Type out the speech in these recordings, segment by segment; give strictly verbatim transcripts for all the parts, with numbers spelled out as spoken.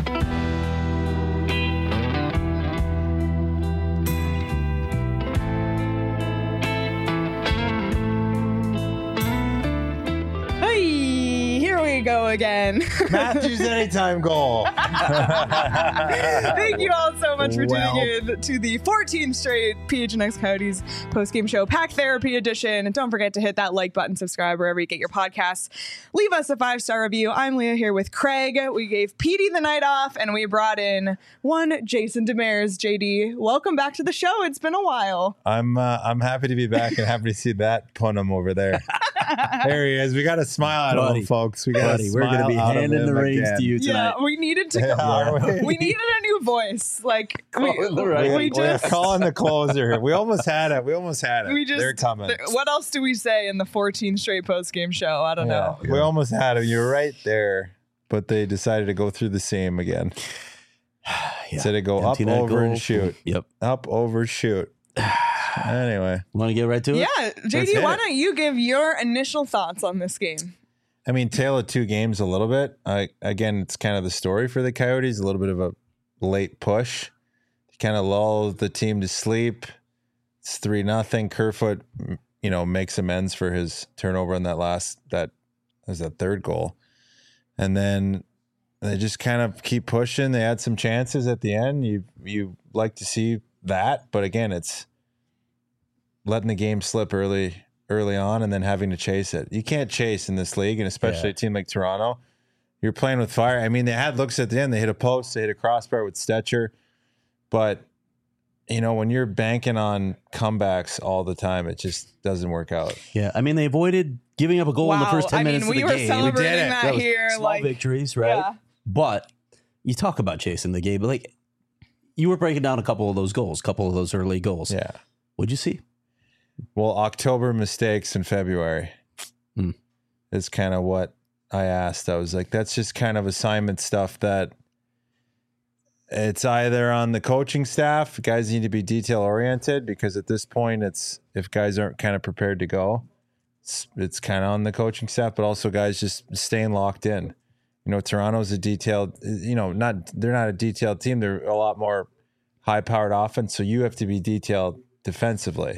Go again. Matthews anytime goal. Thank you all so much for Well. tuning in to the fourteenth straight P H N X Coyotes post-game show, Pack Therapy Edition. And don't forget to hit that like button, subscribe wherever you get your podcasts. Leave us a five-star review. I'm Leah here with Craig. We gave Petey the night off, and we brought in one Jason Demers. J D, welcome back to the show. It's been a while. I'm uh, I'm happy to be back and happy to see that punum over there. There he is. We got to smile at Buddy. him, folks. We got Buddy, we're going to be handing the reins to you tonight. Yeah, we needed to. Yeah, we, we needed a new voice. Like we, Calling the right- we, We, just. are calling the closer. We almost had it. We almost had it. We just, They're coming. th- what else do we say in the fourteenth straight post-game show? I don't know. Yeah, we almost had it. You're right there, but they decided to go through the same again. Yeah. Instead of go Empty up, net over, goal. and shoot. Yep. Up, over, shoot. Anyway, Want to get right to it? Yeah, J Let's D, hit why it. don't you give your initial thoughts on this game? I mean, tale of two games a little bit. I, again, it's kind of the story for the Coyotes, a little bit of a late push. Kind of lulls the team to sleep. It's three nothing. Kerfoot, you know, makes amends for his turnover on that last, that was that third goal. And then they just kind of keep pushing. They had some chances at the end. You you like to see that, but again, it's letting the game slip early early on and then having to chase it. You can't chase in this league, and especially Yeah. a team like Toronto. You're playing with fire. I mean, they had looks at the end. They hit a post, they hit a crossbar with Stetcher. But, you know, when you're banking on comebacks all the time, it just doesn't work out. Yeah. I mean, they avoided giving up a goal in the Wow, first ten I mean, minutes we of the were game. celebrating We did it. that, That was here. small Like, victories, right? yeah. But you talk about chasing the game, but like you were breaking down a couple of those goals, a couple of those early goals. Yeah. What'd you see? Well, October mistakes in February Hmm. is kind of what I asked. I was like, that's just kind of assignment stuff that it's either on the coaching staff, guys need to be detail oriented, because at this point, it's if guys aren't kind of prepared to go, it's, it's kind of on the coaching staff, but also guys just staying locked in. You know, Toronto's a detailed, you know, not they're not a detailed team. They're a lot more high powered offense. So you have to be detailed defensively.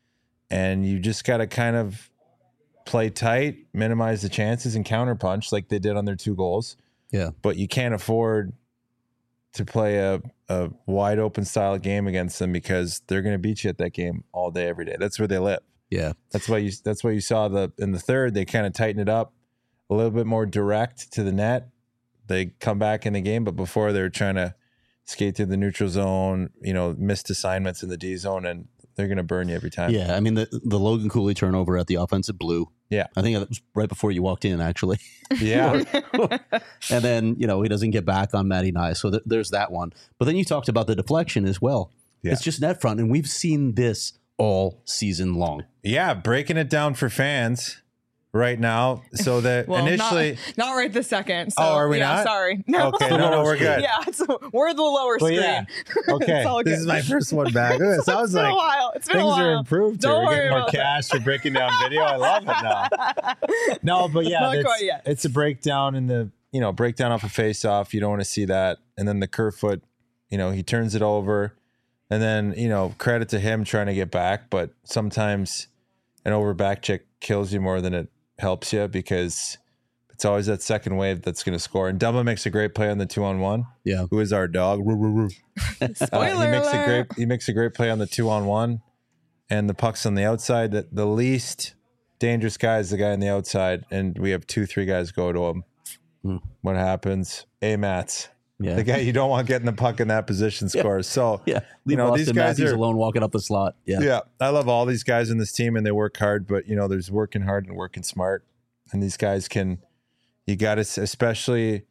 And you just got to kind of play tight, minimize the chances, and counterpunch like they did on their two goals. Yeah. But you can't afford to play a, a wide open style game against them, because they're going to beat you at that game all day, every day. That's where they live. Yeah. That's why you. That's why you saw the in the third they kind of tighten it up a little bit more direct to the net. They come back in the game, but before they were trying to skate through the neutral zone, you know, missed assignments in the D zone, and they're going to burn you every time. Yeah. I mean, the, the Logan Cooley turnover at the offensive blue. Yeah. I think that was right before you walked in, actually. Yeah. And then, you know, he doesn't get back on Matty Nye. So th- there's that one. But then you talked about the deflection as well. Yeah. It's just net front. And we've seen this all season long. Yeah, breaking it down for fans right now, so that well, initially. not, not right this second. So, Oh, are we yeah, not? Sorry. No. Okay, no, no, we're good. Yeah, so we're the lower Well, screen. yeah. It's Okay, all this good. is my first one back. Ooh, it sounds It's been like a while. It's been a things while. are improved. Here. Don't We're worry getting more about cash for breaking down video. I love it now. No, but yeah, Not it's, quite yet. it's a breakdown in the you know breakdown off a face off. You don't want to see that, and then the Kerfoot, you know, he turns it over, and then you know credit to him trying to get back, but sometimes an over back check kills you more than it helps you, because it's always that second wave that's going to score. And Dumba makes a great play on the two on one. Yeah. Who is our dog? Woo, woo, woo. Spoiler uh, he makes alert. a great he makes a great play on the two on one, and the puck's on the outside. That the least dangerous guy is the guy on the outside, and we have two three guys go to him. Hmm. What happens? A Mats, Yeah. the guy you don't want getting the puck in that position scores. So Yeah. you know these Austin guys Matthews are alone walking up the slot. Yeah. yeah. I love all these guys in this team, and they work hard. But you know, there's working hard and working smart, and these guys can. You got to, especially.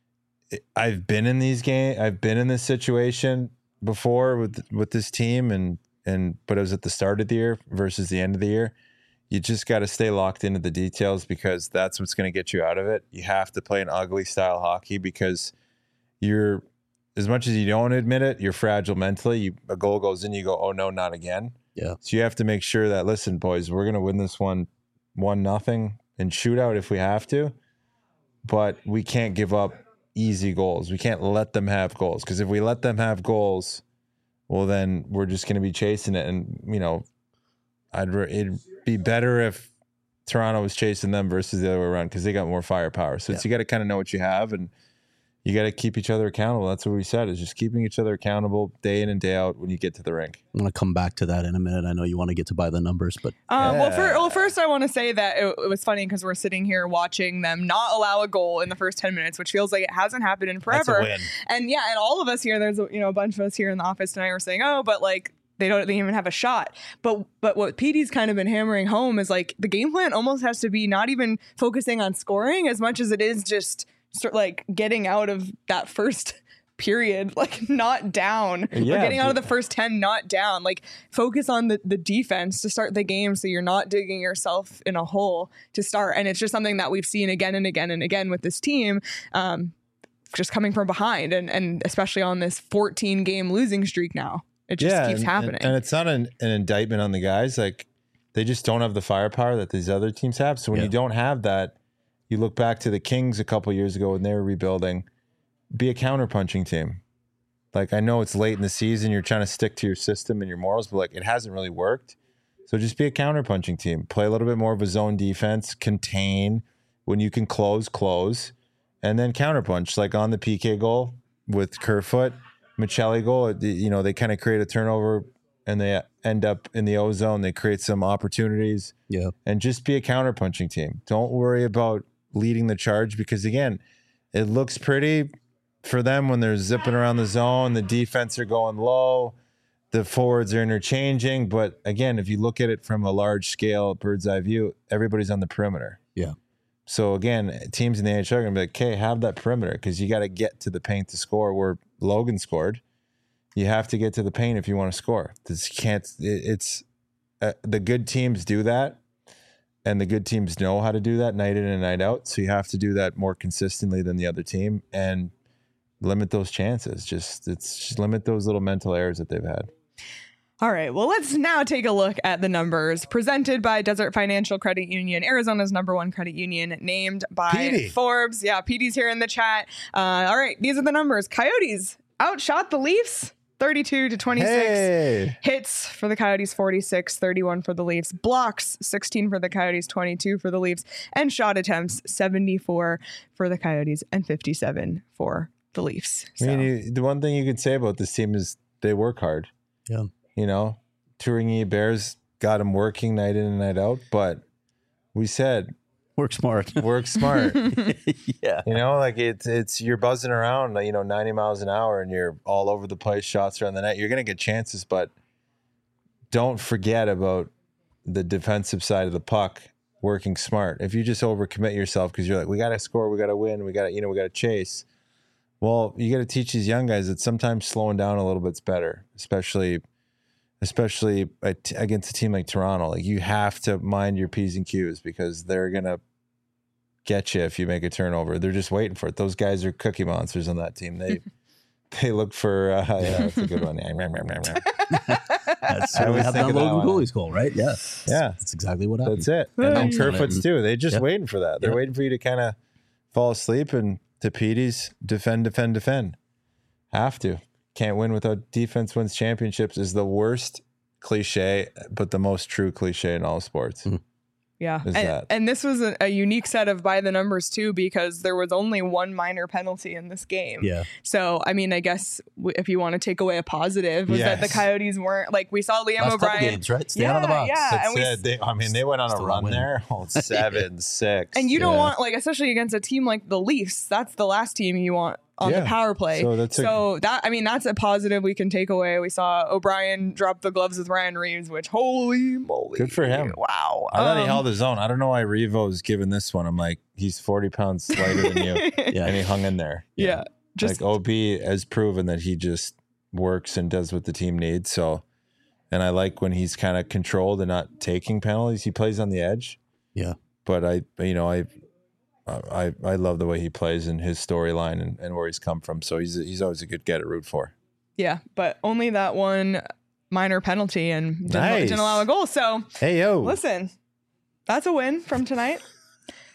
I've been in these games. I've been in this situation before with with this team, and and but it was at the start of the year versus the end of the year. You just got to stay locked into the details, because that's what's going to get you out of it. You have to play an ugly style hockey, because you're, as much as you don't admit it, you're fragile mentally. You, a goal goes in, you go, oh no, not again. Yeah. So you have to make sure that, listen, boys, we're going to win this one, one nothing in shootout if we have to, but we can't give up easy goals. We can't let them have goals, because if we let them have goals, well, then we're just going to be chasing it. And, you know, I'd re- it'd be better if Toronto was chasing them versus the other way around, because they got more firepower. So Yeah. it's, you got to kind of know what you have, and you got to keep each other accountable. That's what we said, is just keeping each other accountable day in and day out when you get to the rink. I'm going to come back to that in a minute. I know you want to get to by the numbers, but Um, well, for, Yeah. well, first I want to say that it, it was funny because we're sitting here watching them not allow a goal in the first ten minutes, which feels like it hasn't happened in forever. That's a win. And yeah, and all of us here, there's you know a bunch of us here in the office tonight were saying, oh, but like they don't they even have a shot. But but what P D's kind of been hammering home is like the game plan almost has to be not even focusing on scoring as much as it is just sort like getting out of that first period, like not down, Yeah, or getting out of but- the first ten not down. Like focus on the, the defense to start the game so you're not digging yourself in a hole to start. And it's just something that we've seen again and again and again with this team, um, just coming from behind, and, and especially on this fourteen game losing streak now. It just Yeah, keeps and, happening. And, and it's not an, an indictment on the guys. Like, they just don't have the firepower that these other teams have. So when Yeah. you don't have that, you look back to the Kings a couple years ago when they were rebuilding. Be a counterpunching team. Like, I know it's late in the season, you're trying to stick to your system and your morals, but like, it hasn't really worked. So just be a counterpunching team. Play a little bit more of a zone defense, contain when you can close, close, and then counterpunch. Like on the P K goal with Kerfoot, Michelli goal, it- you know, they kind of create a turnover and they end up in the O zone. They create some opportunities, yeah, and just be a counterpunching team. Don't worry about leading the charge, because again, it looks pretty for them when they're zipping around the zone. The defense are going low. The forwards are interchanging. But again, if you look at it from a large scale, bird's eye view, everybody's on the perimeter. yeah. So again, teams in the N H L are going to be like, okay, have that perimeter, because you got to get to the paint to score. Where Logan scored, you have to get to the paint if you want to score. This can't. It, it's uh, the good teams do that, and the good teams know how to do that night in and night out. So you have to do that more consistently than the other team, and limit those chances. Just it's just limit those little mental errors that they've had. All right, well, let's now take a look at the numbers presented by Desert Financial Credit Union, Arizona's number one credit union, named by Petey. Forbes. Yeah, P D's here in the chat. Uh, all right, these are the numbers. Coyotes outshot the Leafs thirty-two to twenty-six. Hey, Hits for the Coyotes, forty-six, thirty-one for the Leafs. Blocks, sixteen for the Coyotes, twenty-two for the Leafs. And shot attempts, seventy-four for the Coyotes and fifty-seven for the Leafs. I So, mean, you, the one thing you could say about this team is they work hard. Yeah. You know, Turingi Bears got them working night in and night out, but we said Work smart. work smart. yeah. You know, like it's it's you're buzzing around, you know, ninety miles an hour, and you're all over the place, shots around the net. You're gonna get chances, but don't forget about the defensive side of the puck, working smart. If you just overcommit yourself because you're like, we gotta score, we gotta win, we gotta, you know, we gotta chase. Well, you gotta teach these young guys that sometimes slowing down a little bit's better, especially especially at, against a team like Toronto. Like, you have to mind your P's and Q's, because they're gonna get you if you make a turnover. They're just waiting for it. Those guys are cookie monsters on that team. They they look for uh, yeah, that's a good one. That's I what always happened think on of that Logan one. Cooley's goal, right? Yeah. Yeah. That's exactly what happened. That's it. Yeah. And then Bounced on it Kerfoot's and- too. They're just Yep. waiting for that. They're Yep. waiting for you to kind of fall asleep, and to Petey's defend, defend, defend. Have to. Can't win without defense wins championships is the worst cliche, but the most true cliche in all sports. Mhm. Yeah. Is And, that. and this was a, a unique set of by the numbers too, because there was only one minor penalty in this game. Yeah. So, I mean, I guess w- if you want to take away a positive, was that the Yes. Coyotes weren't like, we saw Liam Last couple O'Brien. games, right? Stay Yeah, out of the box. yeah. That's and we- it. They, I mean, they went on a Still run win. there. Oh, seven, six. And you don't Yeah. want, like, especially against a team like the Leafs, that's the last team you want on Yeah. the power play. So that's a- so that, I mean, that's a positive we can take away. We saw O'Brien drop the gloves with Ryan Reeves, which holy moly. Good for him. Wow. I thought he Um, held his own. I don't know why Revo's given this one. I'm like, he's forty pounds lighter than you. Yeah. And he hung in there. yeah. Just like O B has proven that he just works and does what the team needs. So, and I like when he's kind of controlled and not taking penalties. He plays on the edge. Yeah. But I, you know, I, I, I love the way he plays and his storyline and, and where he's come from. So he's he's always a good guy to root for. yeah, but only that one minor penalty and didn't, Nice. didn't allow a goal. So Hey yo, listen, that's a win from tonight.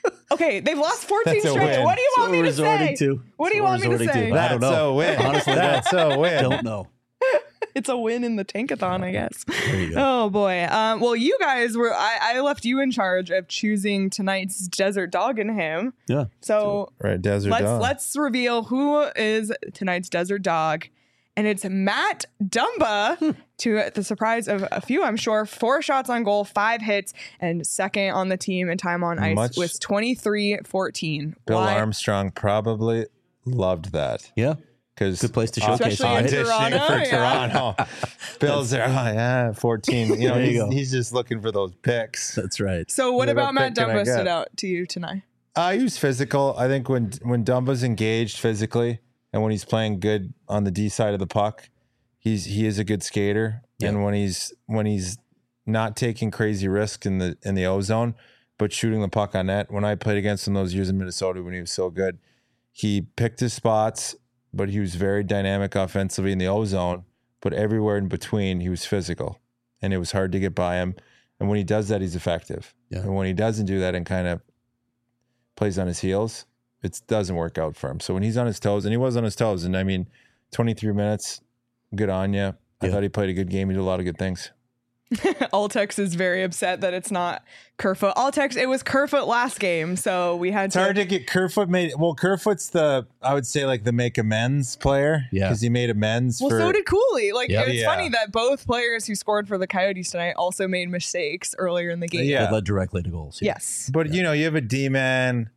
Okay, they've lost fourteen That's a straight. win. What do you want So me we're to say? resorting to. What do you So we're want me to resorting say? I don't That's know. a win. Honestly, That's a win. don't know. It's a win in the tankathon, I guess. There you go. Oh boy. Um, well, you guys were. I, I left you in charge of choosing tonight's Desert Dog and him. Yeah. So Right, Desert let's Dog. let's reveal who is tonight's Desert Dog, and it's Matt Dumba. To the surprise of a few, I'm sure. Four shots on goal, five hits, and second on the team in time on ice Much- with twenty-three fourteen. Bill Why? Armstrong probably loved that. Yeah. Because Good place to showcase Especially in it. Toronto, for yeah. Toronto. Bills are, oh, yeah, fourteen. You know, There you he's, go. he's just looking for those picks. That's right. So, what What about Matt pick can I Dumba get? stood out to you tonight? Uh, he was physical. I think when when Dumba's engaged physically and when he's playing good on the D side of the puck, he's he is a good skater. Yeah. And when he's when he's not taking crazy risks in the in the O zone, but shooting the puck on net. When I played against him those years in Minnesota when he was so good, he picked his spots, but he was very dynamic offensively in the O zone. But everywhere in between, he was physical, and it was hard to get by him. And when he does that, he's effective. Yeah. And when he doesn't do that and kind of plays on his heels, it doesn't work out for him. So when he's on his toes, and he was on his toes, and I mean, twenty-three minutes, good on you. I Yeah. thought he played a good game. He did a lot of good things. Altex is very upset that it's not Kerfoot. Altex, it was Kerfoot last game, so we had It's to. hard to get Kerfoot made. Well, Kerfoot's the, I would say, like the make amends player. Yeah. Because he made amends well, for. so did Cooley. Like, Yep. it's Yeah. funny that both players who scored for the Coyotes tonight also made mistakes earlier in the game. Yeah. That led directly to goals. Yeah. Yes. But, you know, you have a D man.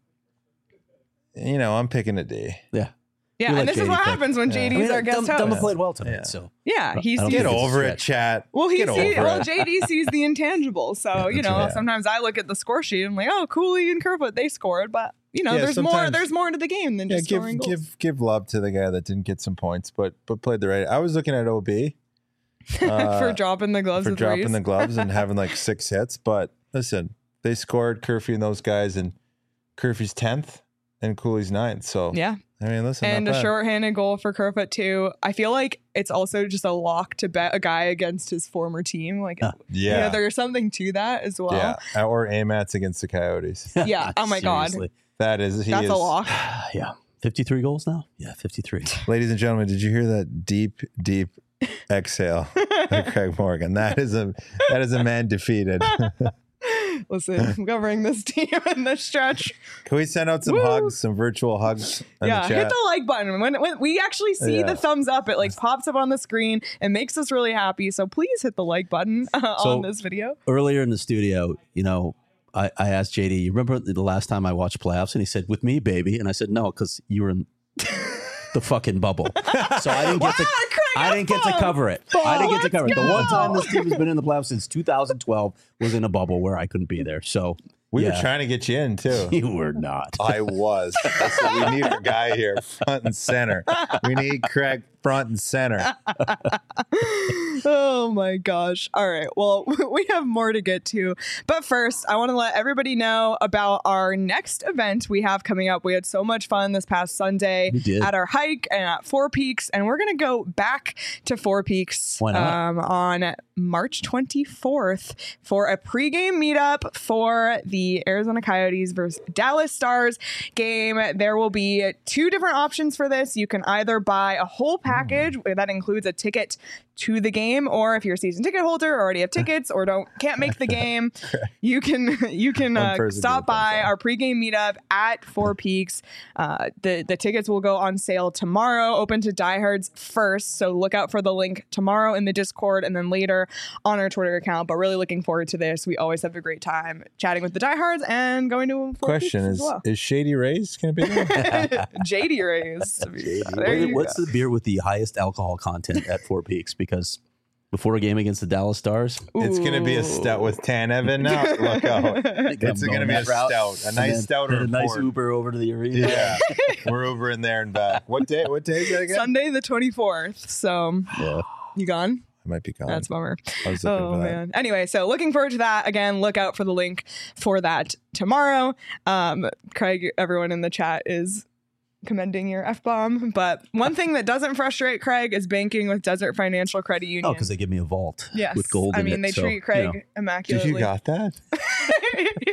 You know, I'm picking a D. Yeah. Yeah, We and let this is J D what pick. happens when Yeah. J D's I mean, our guest Dum- Dumba host. played well tonight, Yeah. so Yeah, he's I don't Get think it's a over it, stretch. chat. well, he Get sees, over well, it. J D sees the intangibles. So, you that's know, right. sometimes I look at the score sheet and I'm like, oh, Cooley and Kerfoot, they scored, but you know, Yeah, there's more sometimes- there's more to the game than Yeah, just give scoring goals. give give love to the guy that didn't get some points, but but played the right. I was looking at O B uh, for dropping the gloves for with dropping Reese. the gloves and having like six hits. But listen, they scored Curfew and those guys, and Curfew's tenth and Cooley's ninth. So Yeah. I mean, listen, And not a bad. shorthanded goal for Kerfoot too. I feel like it's also just a lock to bet a guy against his former team. Like, Yeah. you know, yeah, there's something to that as well. yeah, or Amats against the Coyotes. Yeah. Oh my God. Seriously. That is, he That's is. a lock. Yeah. fifty-three goals now? Yeah, fifty-three. Ladies and gentlemen, did you hear that deep, deep exhale by Craig Morgan? That is a that is a man defeated. Listen, I'm covering this team in this stretch. Can we send out some Woo. hugs, some virtual hugs in Yeah, the hit chat? the like button. When, when we actually see Yeah. the thumbs up, it like pops up on the screen and makes us really happy. So please hit the like button uh, So- on this video. Earlier in the studio, you know, I, I asked J D, you remember the last time I watched playoffs? And he said, with me, baby. And I said, no, because you were in the fucking bubble. So I didn't get to Wow, Craig, I didn't get to that's cover it. I didn't get to Let's cover it. The one go. time this team has been in the playoffs since two thousand twelve was in a bubble where I couldn't be there. So We yeah. were trying to get you in too. You were not. I was. Listen, we need our guy here, front and center. We need Craig front and center. Oh my gosh. All right. Well, we have more to get to. But first, I want to let everybody know about our next event we have coming up. We had so much fun this past Sunday We did. at our hike and at Four Peaks. And we're going to go back to Four Peaks Why not? um, on March twenty-fourth for a pregame meetup for the Arizona Coyotes versus Dallas Stars game. There will be two different options for this. You can either buy a whole package that includes a ticket to the game, or if you're a season ticket holder or already have tickets or don't can't make the game, you can you can One uh, person stop did it, by that's all. our pregame meetup at Four Peaks. Uh, the the tickets will go on sale tomorrow, open to diehards first. So look out for the link tomorrow in the Discord and then later on our Twitter account. But really looking forward to this. We always have a great time chatting with the diehards and going to Four Question Peaks is: as well. Is Shady Rays going to be there? J D Rays. There What- you What's go. the beer with the highest alcohol content at Four Peaks? Because before a game against the Dallas Stars, It's going to be a stout with Tan Evan now. Look out! It's going to be a stout, a nice stout or a a nice port. Uber over to the arena. Yeah, we're over in there and back. What day? What day is that again? Sunday the twenty-fourth. So Yeah. you gone? I might be gone. That's a bummer. I was looking Oh for that. man. Anyway, so looking forward to that. Again, look out for the link for that tomorrow. Um, Craig, everyone in the chat is commending your F-bomb. But one thing that doesn't frustrate Craig is banking with Desert Financial Credit Union. Oh, because they give me a vault yes. with gold I in mean, it. they so, treat you Craig know. Did immaculately. you got that?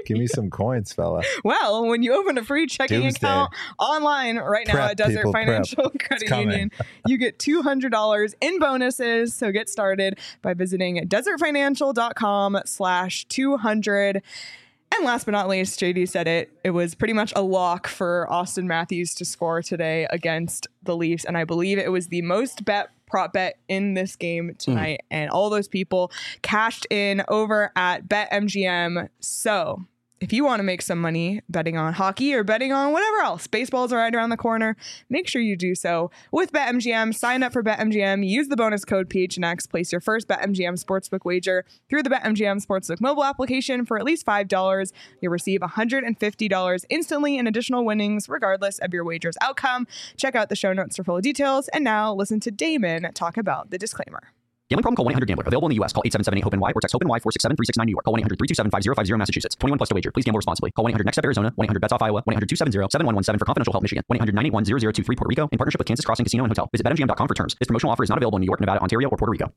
Give me some coins, fella. Well, when you open a free checking Doomsday. account online right now Prep, at Desert people, prep. Financial Credit coming. Union, you get two hundred dollars in bonuses. So get started by visiting desertfinancial.com slash 200. And last but not least, J D said it. It was pretty much a lock for Austin Matthews to score today against the Leafs. And I believe it was the most bet prop bet in this game tonight. Mm. And all those people cashed in over at BetMGM. So if you want to make some money betting on hockey or betting on whatever else, baseball's right around the corner, make sure you do so with BetMGM. Sign up for BetMGM. Use the bonus code P H N X. Place your first BetMGM Sportsbook wager through the BetMGM Sportsbook mobile application for at least five dollars. You'll receive one hundred fifty dollars instantly in additional winnings, regardless of your wager's outcome. Check out the show notes for full details. And now listen to Damon talk about the disclaimer. Gambling problem? Call one eight hundred gambler. Available in the U S. Call eight seven seven eight hope N Y or text hope N Y four six seven three six nine New York. Call one eight hundred three two seven five zero five zero Massachusetts. twenty-one plus to wager. Please gamble responsibly. Call one eight hundred next step Arizona. one eight hundred bets off Iowa. one eight hundred two seven zero seven one one seven for confidential help Michigan. one eight hundred nine eight one zero zero two three Puerto Rico in partnership with Kansas Crossing Casino and Hotel. Visit bet M G M dot com for terms. This promotional offer is not available in New York, Nevada, Ontario, or Puerto Rico.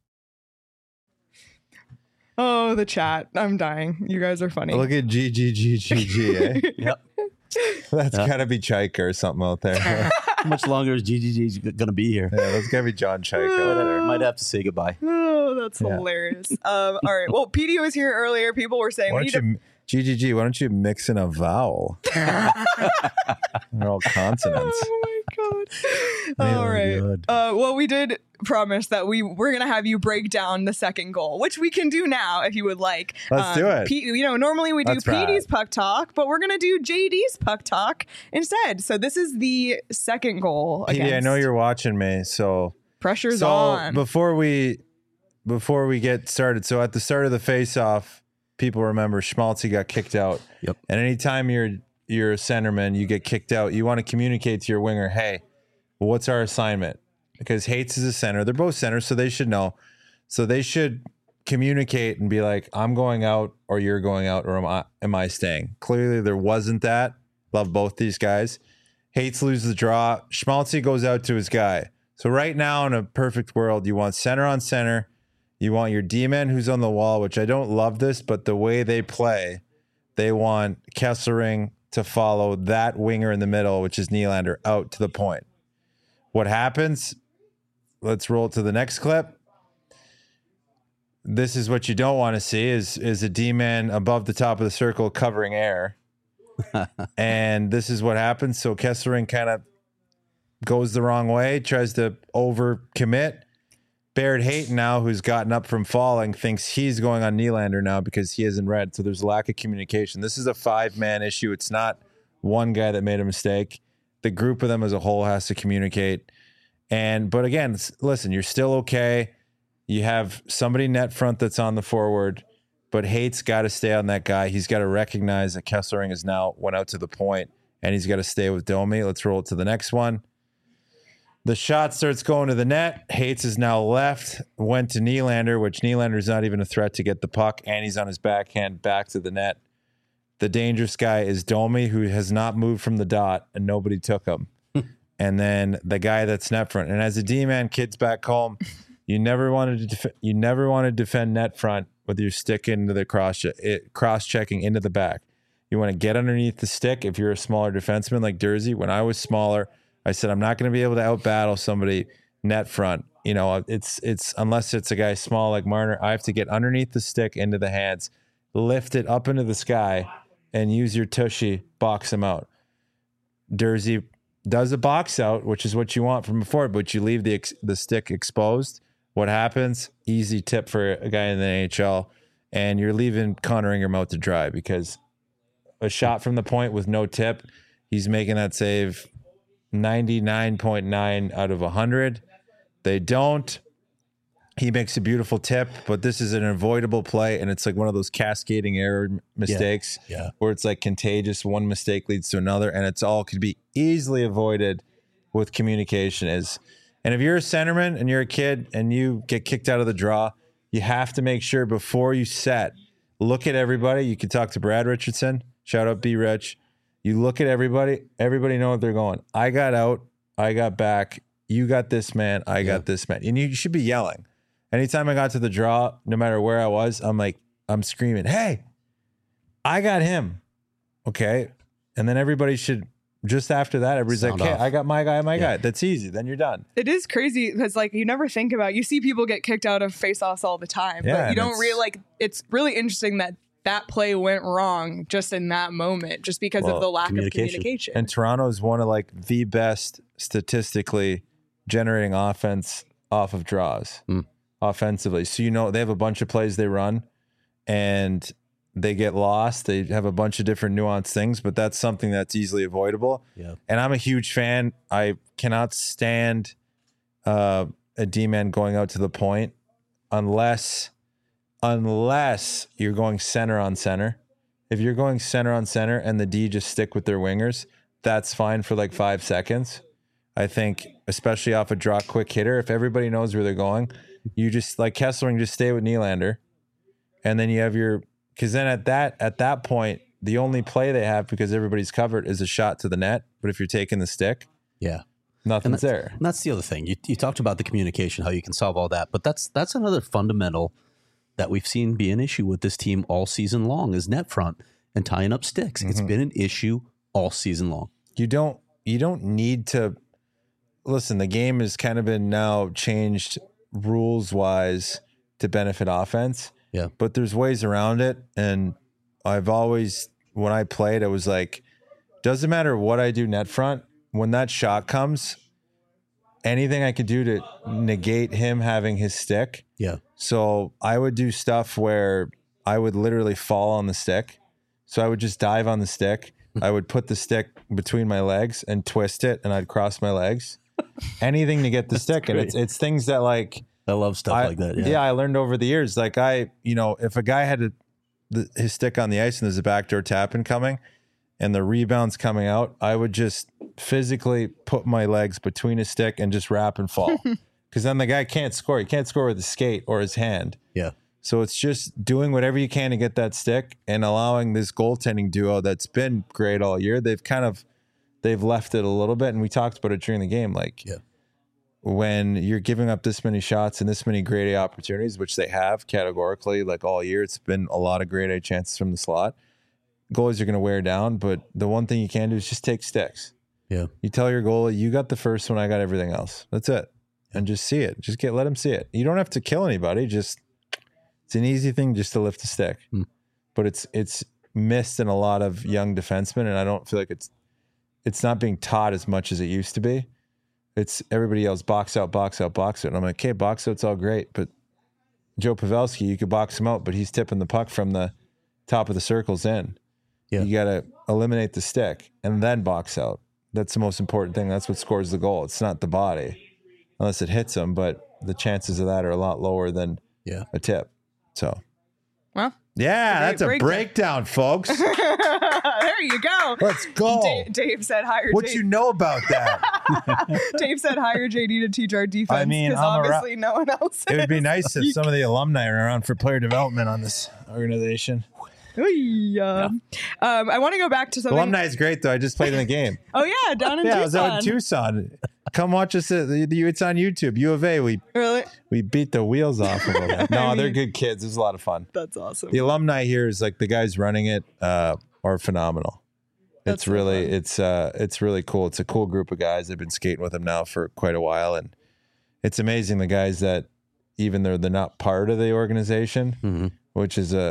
Oh, the chat. I'm dying. You guys are funny. Look at G G G G G. Eh? Yep. That's Yeah. gotta be Chaika or something out there. Yeah, How much longer is G G G's going to be here? that's gotta be John Chaika out there. Might have to say goodbye. Oh, that's Yeah. hilarious. Um, all right. Well, P D was here earlier. People were saying Why we don't need you, G G G, why don't you mix in a vowel? They're all consonants. Oh my god! Oh, All right. God. Uh, well, we did promise that we we're gonna have you break down the second goal, which we can do now if you would like. Let's do it. P, you know, normally we do Let's P D's ride. puck talk, but we're gonna do J D's puck talk instead. So this is the second goal. P D, I against- know you're watching me, so pressure's so on. before we before we get started, so at the start of the face-off, people remember Schmaltzy got kicked out. Yep. And anytime you're you're a centerman, you get kicked out, you want to communicate to your winger, hey, what's our assignment? Because Hates is a center. They're both centers, so they should know. So they should communicate and be like, I'm going out or you're going out or am I, am I staying? Clearly there wasn't that. Love both these guys. Hates loses the draw. Schmaltzy goes out to his guy. So right now in a perfect world, you want center on center. You want your D-man who's on the wall, which I don't love this, but the way they play, they want Kessering to follow that winger in the middle, which is Nylander, out to the point. What happens? Let's roll to the next clip. This is what you don't want to see is, is a D-man above the top of the circle covering air. And this is what happens. So Kessering kind of goes the wrong way, tries to overcommit. Barrett Hayton now, who's gotten up from falling, thinks he's going on Nylander now because he isn't red. So there's a lack of communication. This is a five-man issue. It's not one guy that made a mistake. The group of them as a whole has to communicate. And but again, s- listen, you're still okay. You have somebody net front that's on the forward, but Hate's got to stay on that guy. He's got to recognize that Kessering has now went out to the point, and he's got to stay with Domi. Let's roll it to the next one. The shot starts going to the net. Hates is now left, went to Nylander, which Nylander's not even a threat to get the puck, and he's on his backhand back to the net. The dangerous guy is Domi, who has not moved from the dot, and nobody took him. And then the guy that's net front. And as a D-man, kids back home, you never wanted to def- you never want to defend net front with your stick into the cross it, cross checking into the back. You want to get underneath the stick if you're a smaller defenseman like Dursey. When I was smaller, I said I'm not going to be able to outbattle somebody net front. You know, it's it's unless it's a guy small like Marner, I have to get underneath the stick into the hands, lift it up into the sky, and use your tushy, box him out. Dursey does a box out, which is what you want from before, but you leave the ex- the stick exposed. What happens? Easy tip for a guy in the N H L, and you're leaving Connor Ingram out to dry because a shot from the point with no tip, he's making that save ninety-nine point nine out of one hundred. They don't. He makes a beautiful tip, but this is an avoidable play, and it's like one of those cascading error m- mistakes yeah. where it's like contagious. One mistake leads to another, and it's all could be easily avoided with communication. Is and if you're a centerman and you're a kid and you get kicked out of the draw, you have to make sure before you set, look at everybody. You can talk to Brad Richardson. Shout out B Rich. You look at everybody. Everybody know what they're going. I got out. I got back. You got this man. I got Yeah. this man. And you should be yelling. Anytime I got to the draw, no matter where I was, I'm like, I'm screaming, hey, I got him. Okay. And then everybody should, just after that, everybody's Sound like, hey, off. I got my guy, my Yeah. guy. That's easy. Then you're done. It is crazy because like you never think about, you see people get kicked out of face-offs all the time, Yeah, but you and don't it's- really like, it's really interesting that that play went wrong just in that moment, just because Well, of the lack of communication. communication. And Toronto is one of like the best statistically generating offense off of draws Mm. offensively. So, you know, they have a bunch of plays they run and they get lost. They have a bunch of different nuanced things, but that's something that's easily avoidable. Yeah. And I'm a huge fan. I cannot stand uh, a D-man going out to the point unless unless you're going center on center. If you're going center on center and the D just stick with their wingers, that's fine for like five seconds. I think, especially off a draw quick hitter, if everybody knows where they're going, you just like Kessler and just stay with Nylander. And then you have your, because then at that at that point, the only play they have because everybody's covered is a shot to the net. But if you're taking the stick, Yeah. nothing's And there. And that's the other thing. You, you talked about the communication, how you can solve all that, but that's that's another fundamental that we've seen be an issue with this team all season long is net front and tying up sticks. It's been an issue all season long. You don't you don't need to listen. The game has kind of been now changed rules wise to benefit offense. Yeah. But there's ways around it. And I've always, when I played, it was like, doesn't matter what I do net front, when that shot comes, anything I could do to negate him having his stick. Yeah. So I would do stuff where I would literally fall on the stick. So I would just dive on the stick. I would put the stick between my legs and twist it, and I'd cross my legs. Anything to get the stick. And it's it's things that like I love stuff I, like that. Yeah. I learned over the years. Like I, you know, if a guy had a, the, his stick on the ice and there's a backdoor tap in coming and the rebound's coming out, I would just physically put my legs between his stick and just wrap and fall. Because then the guy can't score. He can't score with his skate or his hand. Yeah. So it's just doing whatever you can to get that stick and allowing this goaltending duo that's been great all year. They've kind of, they've left it a little bit. And we talked about it during the game. Like, Yeah. when you're giving up this many shots and this many grade A opportunities, which they have categorically, like all year, it's been a lot of grade A chances from the slot. Goalies are going to wear down, but the one thing you can do is just take sticks. Yeah. You tell your goalie, you got the first one, I got everything else. That's it. And just see it. Just get, let him see it. You don't have to kill anybody. Just, it's an easy thing just to lift a stick. Hmm. But it's, it's missed in a lot of young defensemen. And I don't feel like it's, it's not being taught as much as it used to be. It's everybody yells box out, box out, box out. And I'm like, okay, box out's all great. But Joe Pavelski, you could box him out, but he's tipping the puck from the top of the circles in. Yeah. You got to eliminate the stick and then box out. That's the most important thing. That's what scores the goal. It's not the body, unless it hits him. But the chances of that are a lot lower than Yeah. a tip. So, Well, yeah, Great that's a breakdown. breakdown, folks. there you go. Let's go. Dave, Dave said hire What J- you know about that? Dave said hire J D to teach our defense I mean, because I'm a ra- obviously no one else. It would be is. nice if some of the alumni are around for player development on this organization. Ooh, um, um, I want to go back to something. Alumni is great, though. I just played in the game. Oh yeah, down in Yeah, I Tucson. was out in Tucson. Come watch us. At the, the, it's on YouTube. U of A. We Really? we beat the wheels off of them. No, I they're mean- good kids. It was a lot of fun. That's awesome. The alumni here is like the guys running it uh, are phenomenal. That's It's so really fun. it's uh it's really cool. It's a cool group of guys. I've been skating with them now for quite a while, and it's amazing the guys that even though they're not part of the organization, Mm-hmm. which is a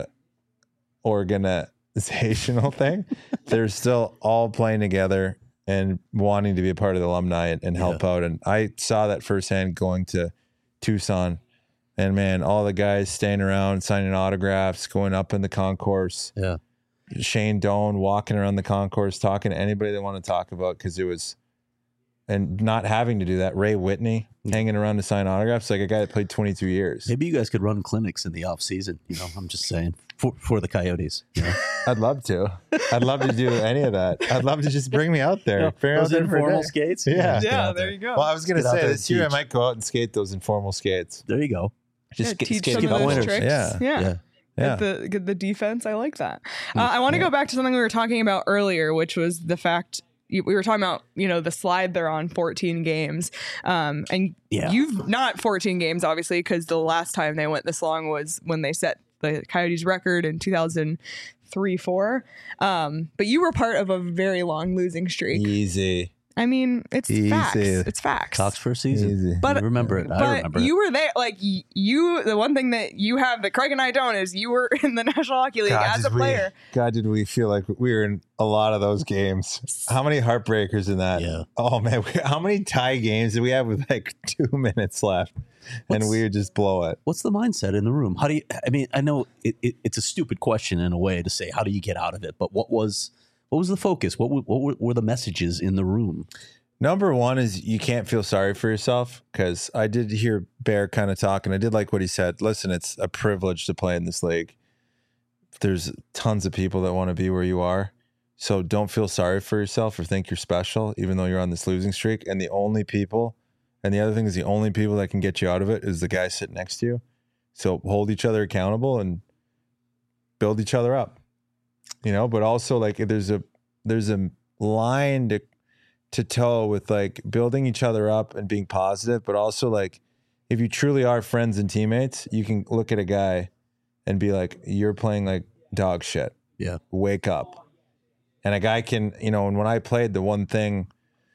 organizational thing, they're still all playing together and wanting to be a part of the alumni and, and help out. And I saw that firsthand going to Tucson, and man, all the guys staying around, signing autographs, going up in the concourse. Yeah. Shane Doan walking around the concourse, talking to anybody they want to talk about, because it was, and not having to do that. Ray Whitney hanging around to sign autographs, like a guy that played twenty-two years. Maybe you guys could run clinics in the off season. You know, I'm just saying for for the Coyotes. You know? I'd love to. I'd love to do any of that. I'd love to just bring me out there. Figure out Those different informal day. skates. Yeah. just get yeah, out there you go. Well, I was gonna Get out say there this and year I teach. might go out and skate those informal skates. There you go. Just Yeah, get, teach skate some the of those winners. tricks. Yeah. Yeah. Yeah. Yeah. Get the get the defense. I like that. Uh, I want to go back to something we were talking about earlier, which was the fact you, we were talking about, you know, the slide they're on fourteen games, um, and Yeah. you've not fourteen games obviously, because the last time they went this long was when they set the Coyotes record in two thousand three, four. Um, but you were part of a very long losing streak. Easy. I mean, it's Easy. facts. It's facts. Cox first season. Easy. But But- you remember it. I But remember you it. were there. Like y- you, the one thing that you have that Craig and I don't is you were in the National Hockey League as a did we- player. God, did we feel like we were in a lot of those games? How many heartbreakers in that? Yeah. Oh man, we, how many tie games did we have with like two minutes left, and What's- we would just blow it? What's the mindset in the room? How do you? I mean, I know it, it, it's a stupid question in a way to say how do you get out of it, but what was what was the focus? What were, what were, were the messages in the room? Number one is you can't feel sorry for yourself, because I did hear Bear kind of talk, and I did like what he said. Listen, it's a privilege to play in this league. There's tons of people that want to be where you are. So don't feel sorry for yourself or think you're special, even though you're on this losing streak. And the only people, and the other thing is the only people that can get you out of it is the guy sitting next to you. So hold each other accountable and build each other up, you know, but also like there's a, there's a line to, to toe with like building each other up and being positive, but also like if you truly are friends and teammates, you can look at a guy and be like, you're playing like dog shit. Yeah. Wake up. And a guy can, you know, and when I played, the one thing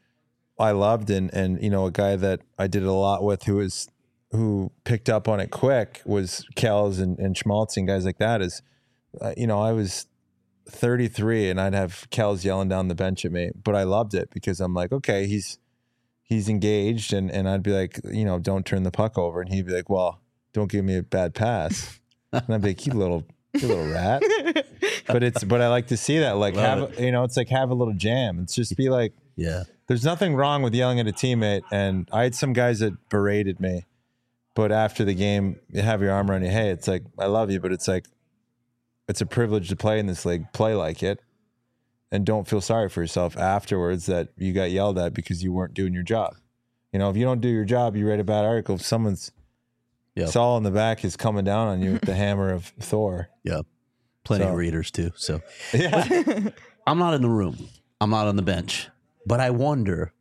I loved and, and, you know, a guy that I did it a lot with who was, who picked up on it quick was Kells and, and Schmaltz and guys like that is, uh, you know, I was thirty-three and I'd have Kells yelling down the bench at me, but I loved it because I'm like, okay, he's, he's engaged. And, and I'd be like, you know, don't turn the puck over. And he'd be like, well, don't give me a bad pass. And I'd be like, you little, you little rat. But it's, but I like to see that, like, Love have, you know, it's like have a little jam. It's just be like, Yeah. there's nothing wrong with yelling at a teammate. And I had some guys that berated me, but after the game, you have your arm around your, hey, it's like, I love you, but it's like, it's a privilege to play in this league. Play like it. And don't feel sorry for yourself afterwards that you got yelled at because you weren't doing your job. You know, if you don't do your job, you write a bad article. If someone's Yep. Saul in the back is coming down on you with the hammer of Thor. Yeah. Plenty So- of readers too. So Yeah. I'm not in the room. I'm not on the bench. But I wonder,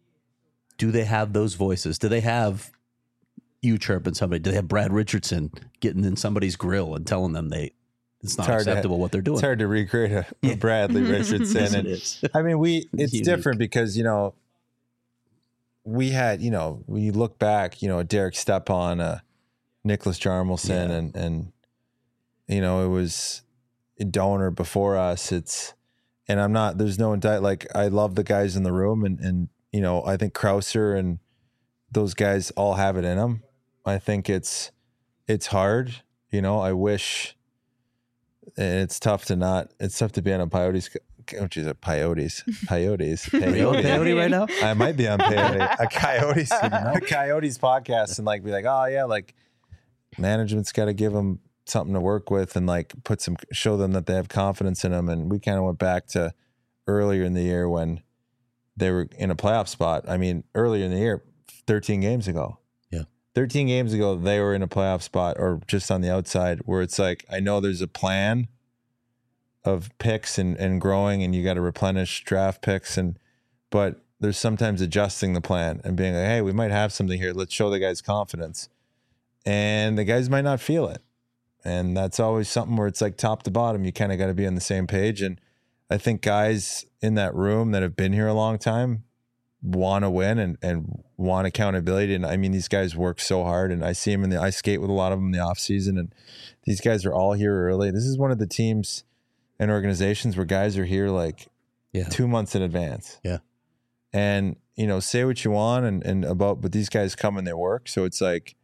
do they have those voices? Do they have you chirping somebody? Do they have Brad Richardson getting in somebody's grill and telling them they it's not hard to- acceptable what they're doing? It's hard to recreate a, a Bradley Richardson. Yes, it and is. I mean, we, it's Unique. different because, you know, we had, you know, when you look back, you know, Derek Stepan, uh, Nicholas Jarmelson, Yeah. and, and, you know, it was a donor before us. It's, and I'm not, there's no indict, like, I love the guys in the room and, and, you know, I think Krauser and those guys all have it in them. I think it's, it's hard, you know, I wish, and it's tough to not, it's tough to be on a Coyotes, oh, geez, a Coyotes, Coyotes, Are you on Coyotes. peyote right now? I might be on Peyote, a Coyotes, a Coyotes podcast, and like be like, oh yeah, like management's got to give them something to work with, and like put some, show them that they have confidence in them. And we kind of went back to earlier in the year when they were in a playoff spot. I mean, earlier in the year, thirteen games ago. Yeah, thirteen games ago, they were in a playoff spot or just on the outside, where it's like, I know there's a plan of picks and, and growing, and you got to replenish draft picks, and but there's sometimes adjusting the plan and being like, hey, we might have something here. Let's show the guys confidence. And the guys might not feel it. And that's always something where it's like top to bottom, you kind of got to be on the same page. And I think guys in that room that have been here a long time want to win and, and want accountability. And I mean, these guys work so hard, and I see them in the, I skate with a lot of them in the off season, and these guys are all here early. This is one of the teams and organizations where guys are here like Yeah. two months in advance. Yeah. And, you know, say what you want and, and about, but these guys come and they work. So it's like,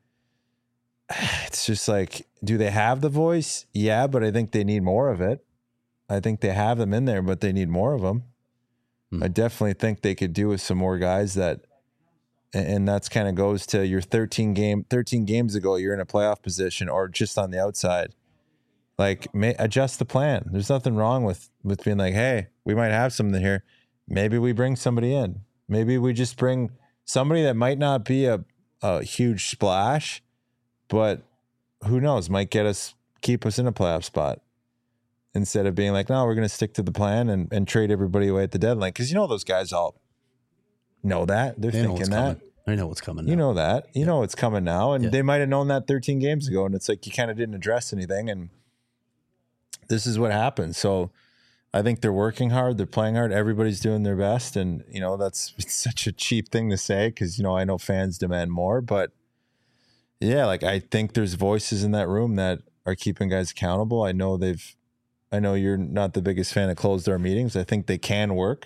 it's just like, do they have the voice? Yeah, but I think they need more of it. I think they have them in there, but they need more of them. Hmm. I definitely think they could do with some more guys that, and and that's kind of goes to your thirteen game, thirteen games ago, you're in a playoff position or just on the outside. Like, may, adjust the plan. There's nothing wrong with, with being like, hey, we might have something here. Maybe we bring somebody in. Maybe we just bring somebody that might not be a, a huge splash, but who knows, might get us, keep us in a playoff spot. Instead of being like, no, we're going to stick to the plan and, and trade everybody away at the deadline. Because you know those guys all know that. They're They know what's thinking that. coming. I know what's coming. You now. know that. You know it's coming now. And Yeah. they might have known that thirteen games ago. And it's like you kind of didn't address anything. And this is what happens. So I think they're working hard. They're playing hard. Everybody's doing their best. And, you know, that's it's such a cheap thing to say because, you know, I know fans demand more. But, yeah, like I think there's voices in that room that are keeping guys accountable. I know they've – I know you're not the biggest fan of closed-door meetings. I think they can work.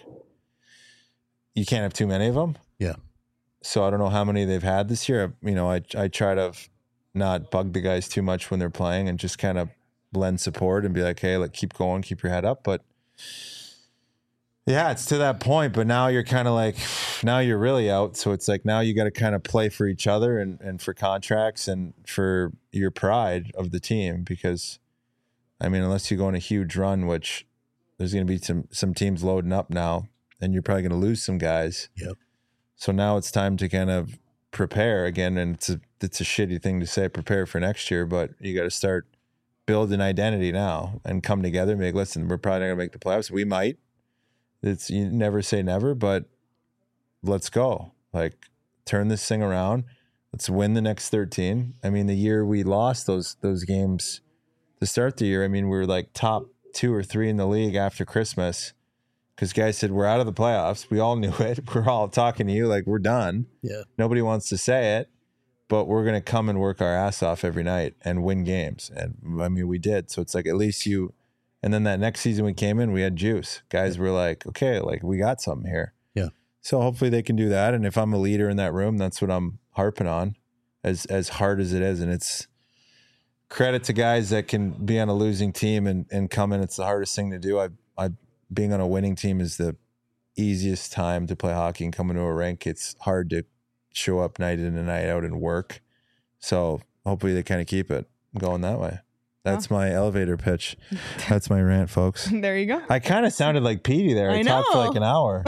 You can't have too many of them. Yeah. So I don't know how many they've had this year. You know, I I try to not bug the guys too much when they're playing and just kind of lend support and be like, hey, like keep going, keep your head up. But yeah, it's to that point. But now you're kind of like, now you're really out. So it's like now you got to kind of play for each other and, and for contracts and for your pride of the team. Because, I mean, unless you go on a huge run, which there's going to be some some teams loading up now, and you're probably going to lose some guys. Yep. So now it's time to kind of prepare again. And it's a, it's a shitty thing to say, prepare for next year, but you got to start building identity now and come together and be like, listen, we're probably not going to make the playoffs. We might. It's you never say never, but let's go. Like turn this thing around. Let's win the next thirteen. I mean, the year we lost those, those games to start the year, I mean, we were like top two or three in the league after Christmas. Because guys said, we're out of the playoffs. We all knew it. We're all talking to you like we're done. Yeah. Nobody wants to say it, but we're going to come and work our ass off every night and win games. And I mean, we did. So it's like, at least you, and then that next season we came in, we had juice. Guys were like, okay, like we got something here. Yeah. So hopefully they can do that. And if I'm a leader in that room, that's what I'm harping on as, as hard as it is. And it's credit to guys that can be on a losing team and, and come in. It's the hardest thing to do. I, I, being on a winning team is the easiest time to play hockey and come into a rink. It's hard to show up night in and night out and work. So hopefully they kind of keep it going that way. That's oh. my elevator pitch. That's my rant, folks. There you go. I kind of sounded like Petey there. I, I talked for like an hour.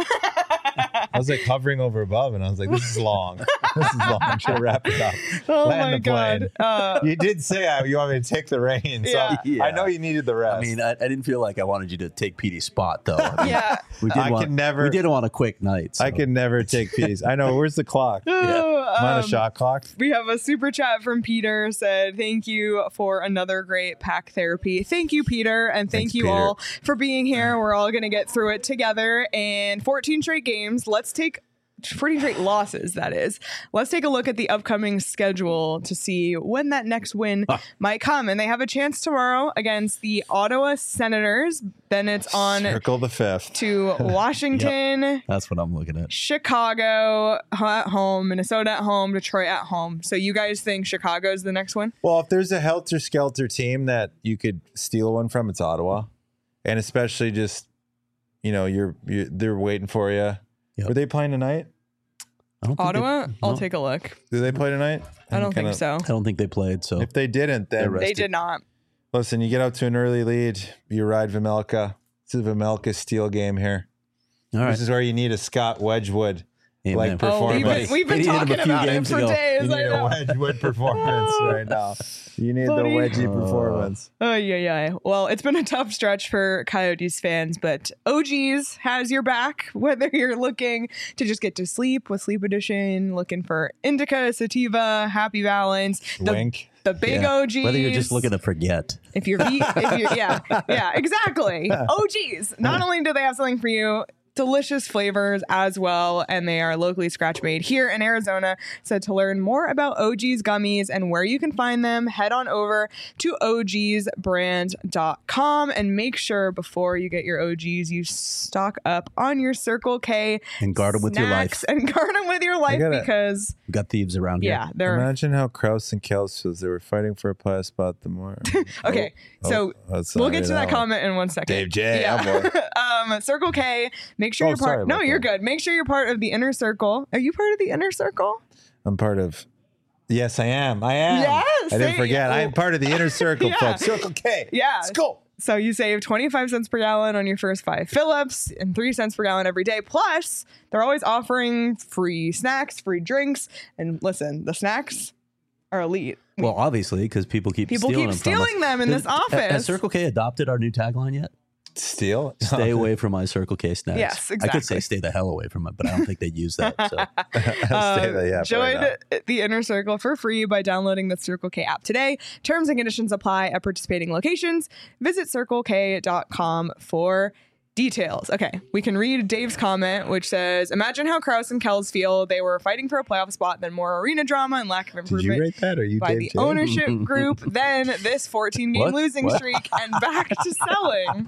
I was like hovering over above, and I was like, "This is long. This is long. I'm trying to wrap it up." Oh Land my the god! Uh, you did say uh, you want me to take the reins. Yeah. So yeah. I know you needed the rest. I mean, I, I didn't feel like I wanted you to take Petey's spot, though. I mean, yeah, we did I want, can never. We did want a quick night. So. I can never take Petey's. I know. Where's the clock? yeah. Am I on a um, shot clock? We have a super chat from Peter. Said thank you for another great pack therapy. Thank you, Peter, and thank Thanks, you Peter. all for being here. We're all gonna get through it together. And fourteen straight games. Let's take. fourteen straight losses, that is. Let's take a look at the upcoming schedule to see when that next win Huh. might come. And they have a chance tomorrow against the Ottawa Senators. Then it's on Circle the fifth. to Washington, That's what I'm looking at. Chicago at home, Minnesota at home, Detroit at home. So you guys think Chicago's the next one? Well, if there's a helter-skelter team that you could steal one from, it's Ottawa. And especially just, you know, you're, you're they're waiting for you. Yep. Were they playing tonight? I don't think Ottawa? they- I'll no, take a look. Do they play tonight? I don't Kinda- think so. I don't think they played. So If they didn't, then They're They rested. did not. listen, you get out to an early lead, you ride Vimelka. It's a Vimelka steal game here. all right. This is where you need a Scott Wedgwood Amen. like Oh, performance. we've been, we've been He hit him a talking few about it games for ago. days. You I need a know. Wedgwood performance right now. You need Buddy. the wedgie Oh. performance. Oh, yeah, yeah. Well, it's been a tough stretch for Coyotes fans, but O Gs has your back, whether you're looking to just get to sleep with Sleep Edition, looking for indica, sativa, happy balance, the, Wink. the big Yeah. O Gs. Whether you're just looking to forget. If you're, ve- if you're yeah, yeah, exactly. O Gs. Not only do they have something for you, delicious flavors as well, and they are locally scratch made here in Arizona. So to learn more about O G's gummies and where you can find them, head on over to O Gs brand dot com and make sure before you get your O Gs, you stock up on your Circle K And guard 'em with your life. snacks and guard them with your life gotta- because We've got thieves around here. yeah, they're Imagine how Krause and Kels feels. They were fighting for a playoff spot the more. okay. Oh, so oh, that's we'll not get to right, that one. comment in one second. Dave J. Yeah. Oh, um, Circle K. Make sure Oh, you're sorry part. No, about you're that. good. Make sure you're part of the inner circle. Are you part of the inner circle? I'm part of. Yes, I am. I am. Yes, I didn't there forget. you I go. am part of the inner circle, Yeah. folks. Circle K. Yeah. Let's go. So you save twenty-five cents per gallon on your first five fill-ups and three cents per gallon every day. Plus, they're always offering free snacks, free drinks. And listen, the snacks are elite. Well, obviously, because people keep People stealing keep them from us. stealing them in Did- this ha- office. Has Circle K adopted our new tagline yet? Steal? Stay away from my Circle K snacks. Yes, I could say exactly. stay the hell away from it, but I don't think they'd use that. So Stay there, yeah, Join probably not. the Inner Circle for free by downloading the Circle K app today. Terms and conditions apply at participating locations. Visit circle k dot com for details. Okay, we can read Dave's comment, which says, imagine how Krause and Kells feel. They were fighting for a playoff spot, then more arena drama and lack of Did you improvement wrate that, or you by Dave the J? ownership group, then this fourteen game What? losing What? streak, and back to selling.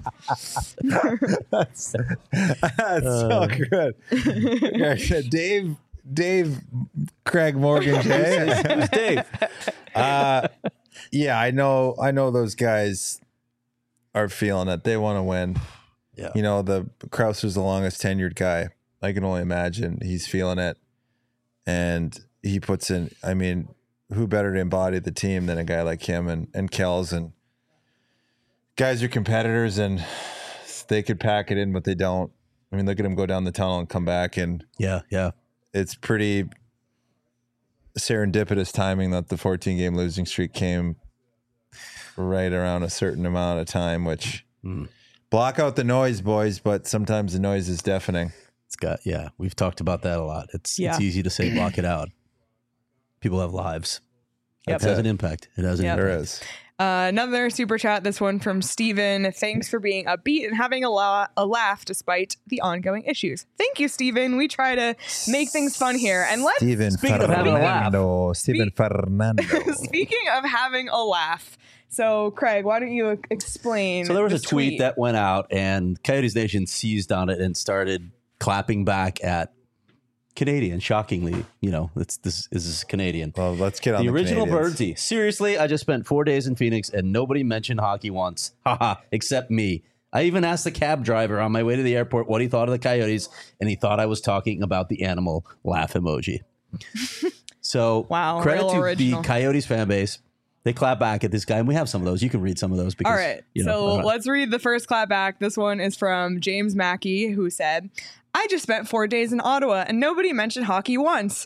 That's, that's so good. Yeah, Dave, Dave, Craig Morgan, Jay. Who's Dave? Uh, yeah, I know. I know those guys are feeling it. They want to win. Yeah. You know, the Krauser's the longest tenured guy. I can only imagine he's feeling it, and he puts in. I mean, who better to embody the team than a guy like him and and Kells, and guys are competitors, and they could pack it in, but they don't. I mean, look at him go down the tunnel and come back, and Yeah, yeah. it's pretty serendipitous timing that the fourteen game losing streak came right around a certain amount of time, which Mm. block out the noise, boys, but sometimes the noise is deafening. It's got, yeah, we've talked about that a lot. It's Yeah. it's easy to say block it out. People have lives. Yep. It has an impact. It has an Yep. There impact. is. Uh, another super chat, this one from Steven. Thanks for being upbeat and having a, la- a laugh despite the ongoing issues. Thank you, Steven. We try to make things fun here. And let's Steven Speaking of having a laugh. Fernando. Steven Fernando. speaking of having a laugh. So, Craig, why don't you explain? So there was a this tweet, that went out, and Coyotes Nation seized on it and started clapping back at Canadian. Shockingly, you know, it's this is this Canadian. Well, let's get on The the, original Canadians. Birdsey. Seriously, I just spent four days in Phoenix and nobody mentioned hockey once. Haha, except me. I even asked the cab driver on my way to the airport what he thought of the Coyotes, and he thought I was talking about the animal laugh emoji. So, Wow, credit real to original. the Coyotes fan base. They clap back at this guy, and we have some of those. You can read some of those because, All right. you know, so I'm not- let's read the first clap back. This one is from James Mackey, who said, I just spent four days in Ottawa and nobody mentioned hockey once.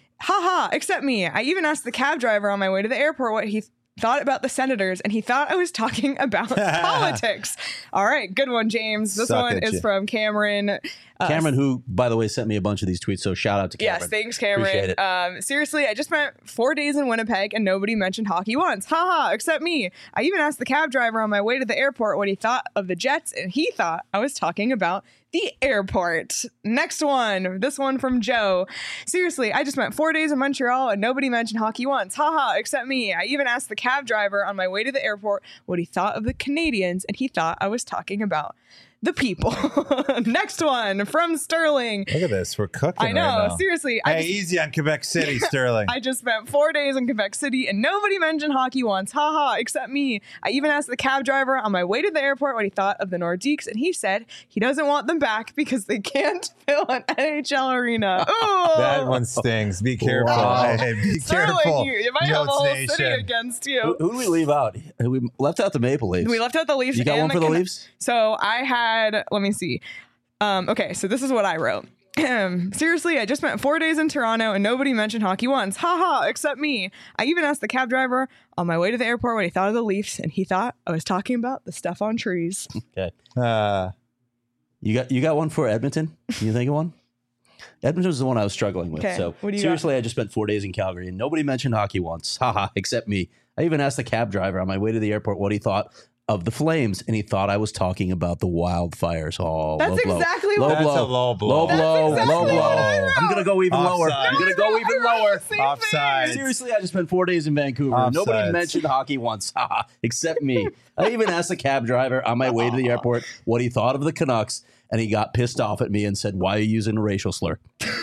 Haha, except me. I even asked the cab driver on my way to the airport what he th- thought about the Senators, and he thought I was talking about politics. All right, good one, James. This Suck one at is you. from Cameron. Uh, Cameron, who, by the way, sent me a bunch of these tweets, so shout out to Cameron. Yes, thanks, Appreciate Cameron. it. Um, seriously, I just spent four days in Winnipeg and nobody mentioned hockey once. Haha, except me. I even asked the cab driver on my way to the airport what he thought of the Jets, and he thought I was talking about the airport. Next one. This one from Joe. Seriously, I just spent four days in Montreal and nobody mentioned hockey once. Haha, except me. I even asked the cab driver on my way to the airport what he thought of the Canadians, and he thought I was talking about the people. Next one from Sterling. Look at this. We're cooking I know. right now. Seriously. I Hey, just, easy on Quebec City, Sterling. I just spent four days in Quebec City and nobody mentioned hockey once. Haha, except me. I even asked the cab driver on my way to the airport what he thought of the Nordiques, and he said he doesn't want them back because they can't fill an N H L arena. Ooh. That one stings. Be careful. Wow. Hey, be Sterling, careful. you, you might have a Yotes whole Nation. city against Who, you. who did we leave out? We left out the Maple Leafs. We left out the Leafs. You got and one for the Can- Leafs? So I had, let me see. Um, okay, so this is what I wrote. Seriously, I just spent four days in Toronto and nobody mentioned hockey once. Haha, except me. I even asked the cab driver on my way to the airport what he thought of the Leafs, and he thought I was talking about the stuff on trees. Okay. Uh, You got you got one for Edmonton? Can you think of one? Edmonton was the one I was struggling with. Okay, So what do you seriously, I just spent four days in Calgary and nobody mentioned hockey once. Haha, except me. I even asked the cab driver on my way to the airport what he thought of the Flames, and he thought I was talking about the wildfires. Oh, That's low blow. exactly low what- That's blow. a low blow. Low That's blow. exactly low what blow. I wrote. I'm gonna go even lower. Offside. I'm gonna go even I wrote lower. the same Offside. thing. Seriously, I just spent four days in Vancouver. Offsides. Nobody mentioned hockey once, haha, except me. I even asked the cab driver on my way to the airport what he thought of the Canucks, and he got pissed off at me and said, "Why are you using a racial slur?"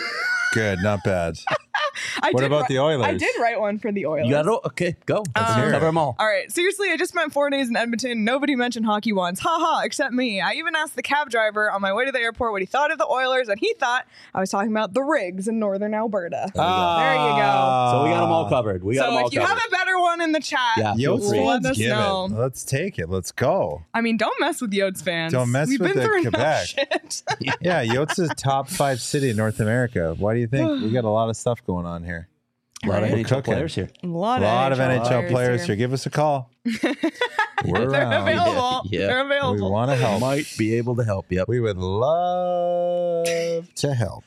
good, not bad. I What did about wri- the Oilers? I did write one for the Oilers. You got it? Okay, go. Let's Um, cover them all. All right. Seriously, I just spent four days in Edmonton. Nobody mentioned hockey once. Haha, except me. I even asked the cab driver on my way to the airport what he thought of the Oilers, and he thought I was talking about the rigs in northern Alberta. Ah. There you go. So we got them all covered. We got them So all if you covered. have a better one in the chat, Yeah, feel Yotes free. let fans, us give know. it. Let's take it. Let's go. I mean, don't mess with Yotes fans. Don't mess We've with been the through Quebec. enough shit. Yeah, Yotes is top five city in North America. Why do you think? We got a lot of stuff going on here. A lot of Right. N H L Cooking. players here. A lot, A lot of N H L players here. here. Give us a call. We're They're around. available. Yeah, yeah. They're We available. want to help. Might be able to help. Yep. We would love to help.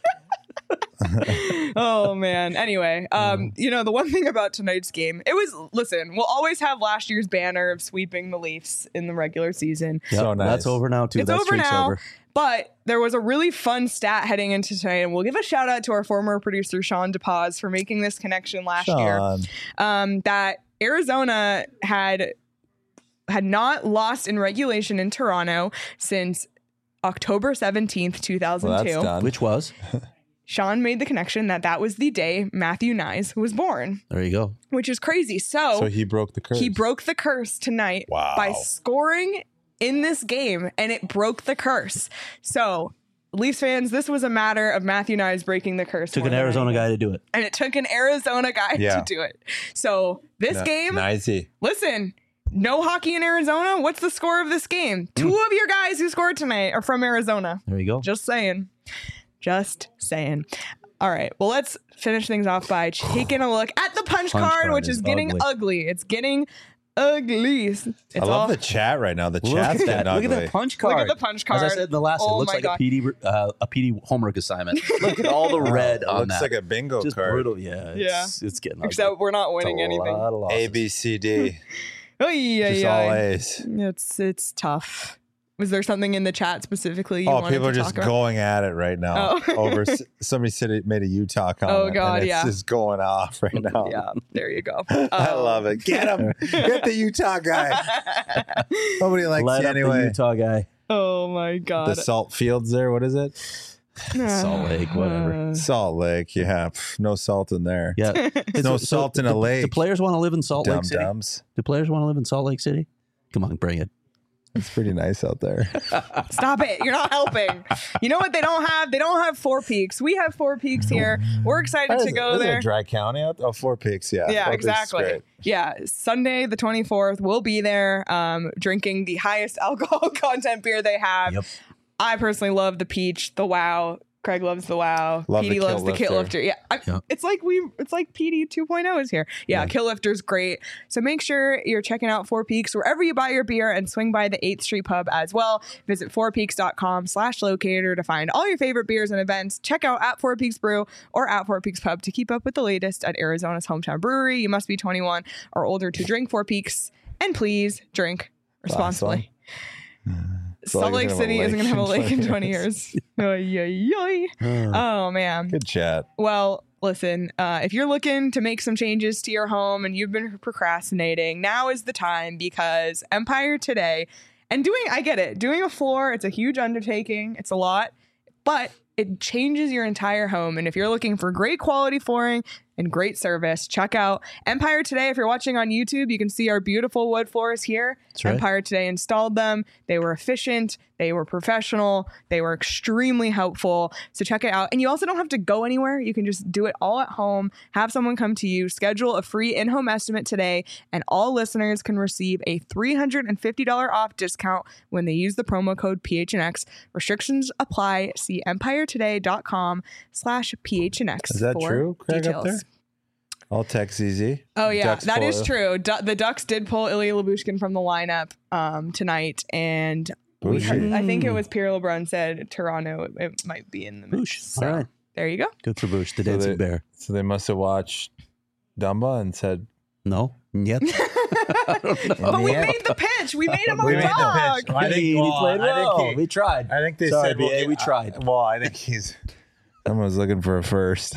Oh man. Anyway, um, you know, the one thing about tonight's game, it was listen, we'll always have last year's banner of sweeping the Leafs in the regular season. Yep, So nice. That's over now too. It's that over streak's now. over. But there was a really fun stat heading into tonight, and we'll give a shout out to our former producer Sean DePaz for making this connection last year. Sean. Um, that Arizona had had not lost in regulation in Toronto since October seventeenth, two thousand two. Well, that's done. Which was Sean made the connection that that was the day Matthew Nyes was born, there you go. which is crazy. So, So he broke the curse. he broke the curse tonight Wow. by scoring in this game, and it broke the curse. So, Leafs fans, this was a matter of Matthew Nyes breaking the curse. Took more an than Arizona anything. guy to do it. And it took an Arizona guy Yeah. to do it. So, this N- game, Nicey. listen, no hockey in Arizona. What's the score of this game? Two of your guys who scored tonight are from Arizona. There you go. Just saying. Just saying. All right. Well, let's finish things off by taking a look at the punch, Punch card, card which is, is getting ugly. ugly. It's getting ugly. It's I love all, the chat right now. The Look chat's at getting that. Look ugly. at that punch Look card. at the punch As I card. said in the last, Oh it looks my like God. a P D uh, a P D homework assignment. Look at all the red on Looks that. like a bingo Just card. brutal. Yeah. Yeah. It's, it's getting ugly. Except we're not It's a winning anything. lot of losses. A, B, C, D. Oh, yeah, Just yeah. all A's. It's it's tough. Was there something in the chat specifically you Oh, wanted people to are just talk about? going at it right now. Oh. Over s- somebody said it made a Utah comment. Oh, God, and it's yeah. just going off right now. Yeah, there you go. I Um, love it. Get him. Get the Utah guy. Nobody likes Light you up the anyway. Utah guy. Oh my The God. salt fields there. What is it? Salt Lake, whatever. Uh, Salt Lake. Yeah. pff, no salt in there. Yeah. There's no salt in a do, lake. Do players want to live in Salt Dum Lake City? dums. Do players want to live in Salt Lake City? Come on, bring it. It's pretty nice out there. Stop it. You're not helping. You know what they don't have? They don't have Four Peaks. We have Four Peaks here. We're excited to go Isn't it there. Dry County out? Oh, Four Peaks. Yeah. Yeah, Four Peaks is exactly. great. Yeah, Sunday the twenty-fourth, we'll be there um, drinking the highest alcohol content beer they have. Yep. I personally love the peach, the wow. Craig loves the wow. Love P the D loves Kill the kill Lifter. lifter. Yeah, I, Yeah. it's like we, it's like P D two point oh is here. Yeah, Yeah. kill lifter's great. So make sure you're checking out Four Peaks wherever you buy your beer, and swing by the eighth Street Pub as well. Visit four peaks dot com slash locator to find all your favorite beers and events. Check out at Four Peaks Brew or at Four Peaks Pub to keep up with the latest at Arizona's hometown brewery. You must be twenty-one or older to drink Four Peaks, and please drink responsibly. Salt Salt Lake City isn't going to have a lake in twenty years. Oy, oy, oy. Oh, man. Good chat. Well, listen, uh, if you're looking to make some changes to your home and you've been procrastinating, now is the time, because Empire Today, and doing, I get it, doing a floor, it's a huge undertaking. It's a lot, but it changes your entire home. And if you're looking for great quality flooring and great service, check out Empire Today. If you're watching on YouTube, you can see our beautiful wood floors here. That's right. Empire Today installed them. They were efficient. They were professional. They were extremely helpful. So check it out. And you also don't have to go anywhere. You can just do it all at home. Have someone come to you. Schedule a free in-home estimate today. And all listeners can receive a three hundred fifty dollars off discount when they use the promo code P H N X. Restrictions apply. See empire today dot com slash P H N X Is that for true, Craig, details. up there? I'll text Z Z. Oh yeah, Ducks that full is of- true. Du- the Ducks did pull Ilya Lyubushkin from the lineup um, tonight, and we Boucher. heard- I think it was Pierre LeBrun said Toronto it, it might be in the mix. Boosh. So, All right. there you go. Good for Bush, the So dancing they- bear. So they must have watched Dumba and said, No? Yet? But we Yeah. made the pitch. We made him We a made the dog. pitch. I think- he well, played I think well. he- we tried. I think they Sorry, said, B A, well, we I- tried. well, I think he's, someone's looking for a first.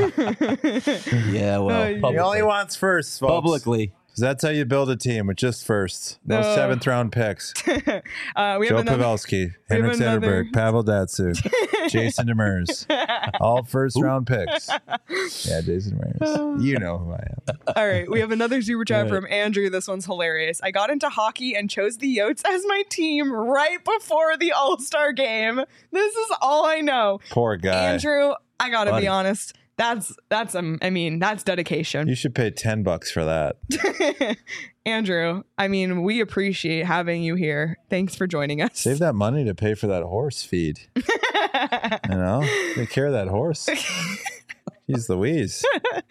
Yeah, well, Uh, he He publicly. only wants firsts, folks. publicly. 'Cause that's how you build a team, with just firsts. No Uh, seventh round picks. uh, we have Joe another. Pavelski, Henrik another- Zetterberg, Pavel Datsuk, Jason Demers. All first round picks. Yeah, Jason Demers. You know who I am. All right, we have another super chat Right. from Andrew. This one's hilarious. I got into hockey and chose the Yotes as my team right before the All Star game. This is all I know. Poor guy. Andrew, I gotta Buddy. be honest. That's that's um. I mean, that's dedication. You should pay ten bucks for that. Andrew, I mean, we appreciate having you here. Thanks for joining us. Save that money to pay for that horse feed. You know, take care of that horse. He's Louise.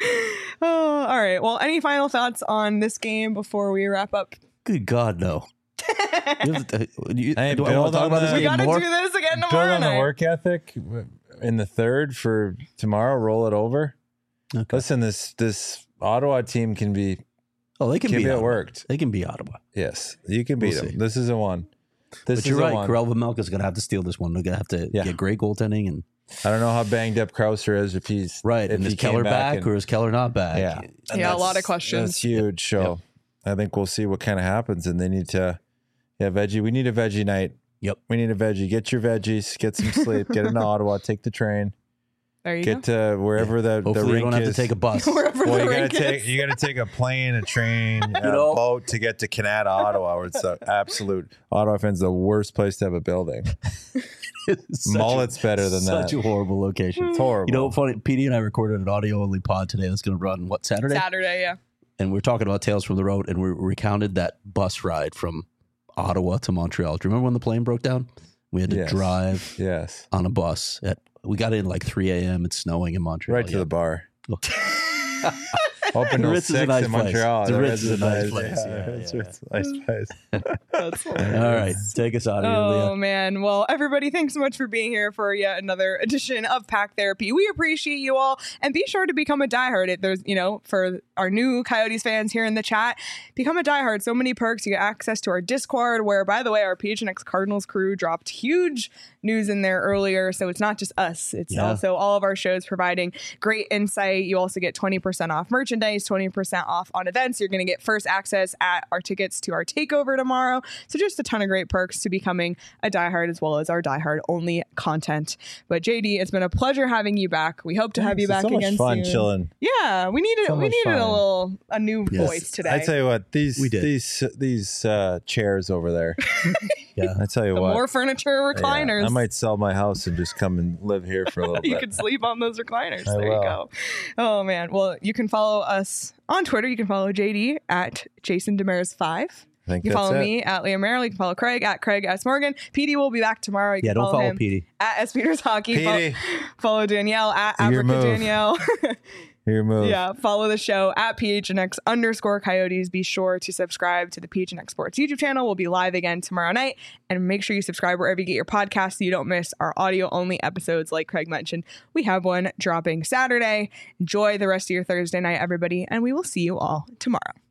Oh, all right. Well, any final thoughts on this game before we wrap up? Good God, no. You have to- you- Hey, do I want build to talk on about this the- We game got to more? do this again Build tomorrow on the night. work ethic in the third for tomorrow. Roll it over. Okay. Listen, this this Ottawa team can be Oh, they can, can be be Ottawa. worked. They can be Ottawa. Yes, you can beat We'll them. see. This is a one. This But is you're a right. one. Karel Vejmelka's going to have to steal this one. They're going to have to Yeah. get great goaltending. And I don't know how banged up Krauser is if he's right. If And he is came Keller back, and- or is Keller not back? yeah, And Yeah, a lot of that's- questions. That's huge. So I think we'll see what kind of happens, and they need to. Yeah, veggie. We need a veggie night. Yep. We need a veggie. Get your veggies. Get some sleep. Get into Ottawa. Take the train. There you Get go. to wherever the the Hopefully, you rink don't have is. to take a bus. Wherever Well, the you gotta rink take is. you gotta take a plane, a train, a know- boat to get to Canada, Ottawa, where it's the absolute Ottawa fans the worst place to have a building. It's such a- Mullet's better than Such that. a horrible location. It's horrible. You know, funny. P D and I recorded an audio only pod today. That's going to run what Saturday? Saturday, yeah. And we're talking about Tales from the Road, and we recounted that bus ride from Ottawa to Montreal. Do you remember when the plane broke down? We had to Yes. drive Yes, on a bus. At we got in like three a.m. It's snowing in Montreal. right to Yeah. the bar. Oh. Open The till Ritz is a six nice in place. Montreal. The Ritz is a nice nice- place. Yeah, Yeah, it's yeah, it's a nice place. That's All right, take us out of here, Oh Leah. man. Well, everybody, thanks so much for being here for yet another edition of Pack Therapy. We appreciate you all, and be sure to become a diehard. It There's, you know, for our new Coyotes fans here in the chat, become a diehard. So many perks. You get access to our Discord, where, by the way, our P H N X Cardinals crew dropped huge news in there earlier. So it's not just us. It's Yeah. also all of our shows providing great insight. You also get twenty percent off merchandise, twenty percent off on events. You're going to get first access at our tickets to our takeover tomorrow. So just a ton of great perks to becoming a diehard, as well as our diehard only content. But J D, it's been a pleasure having you back. We hope to have you It's back so much again fun soon. chilling. Yeah, we needed So we much needed a fun. little a new Yes. voice today. I tell you what, these We did. these these uh, chairs over there. Yeah. I tell you the what, more furniture yeah, recliners. I might sell my house and just come and live here for a little you bit. could sleep on those recliners. I there will. you go. Oh man. Well, you can follow us on Twitter. You can follow J D at Jason Demers five. I think You can that's follow it. me at Leah Merrill. You can follow Craig at Craig S. Morgan. P D will be back tomorrow. You Yeah, can don't follow him P D. at S. Peters Hockey. Fo- Petey. follow Danielle at Your Africa move. Danielle. Your move. Yeah, follow the show at P H N X underscore Coyotes. Be sure to subscribe to the P H N X Sports YouTube channel. We'll be live again tomorrow night. And make sure you subscribe wherever you get your podcasts so you don't miss our audio only episodes like Craig mentioned. We have one dropping Saturday. Enjoy the rest of your Thursday night, everybody, and we will see you all tomorrow.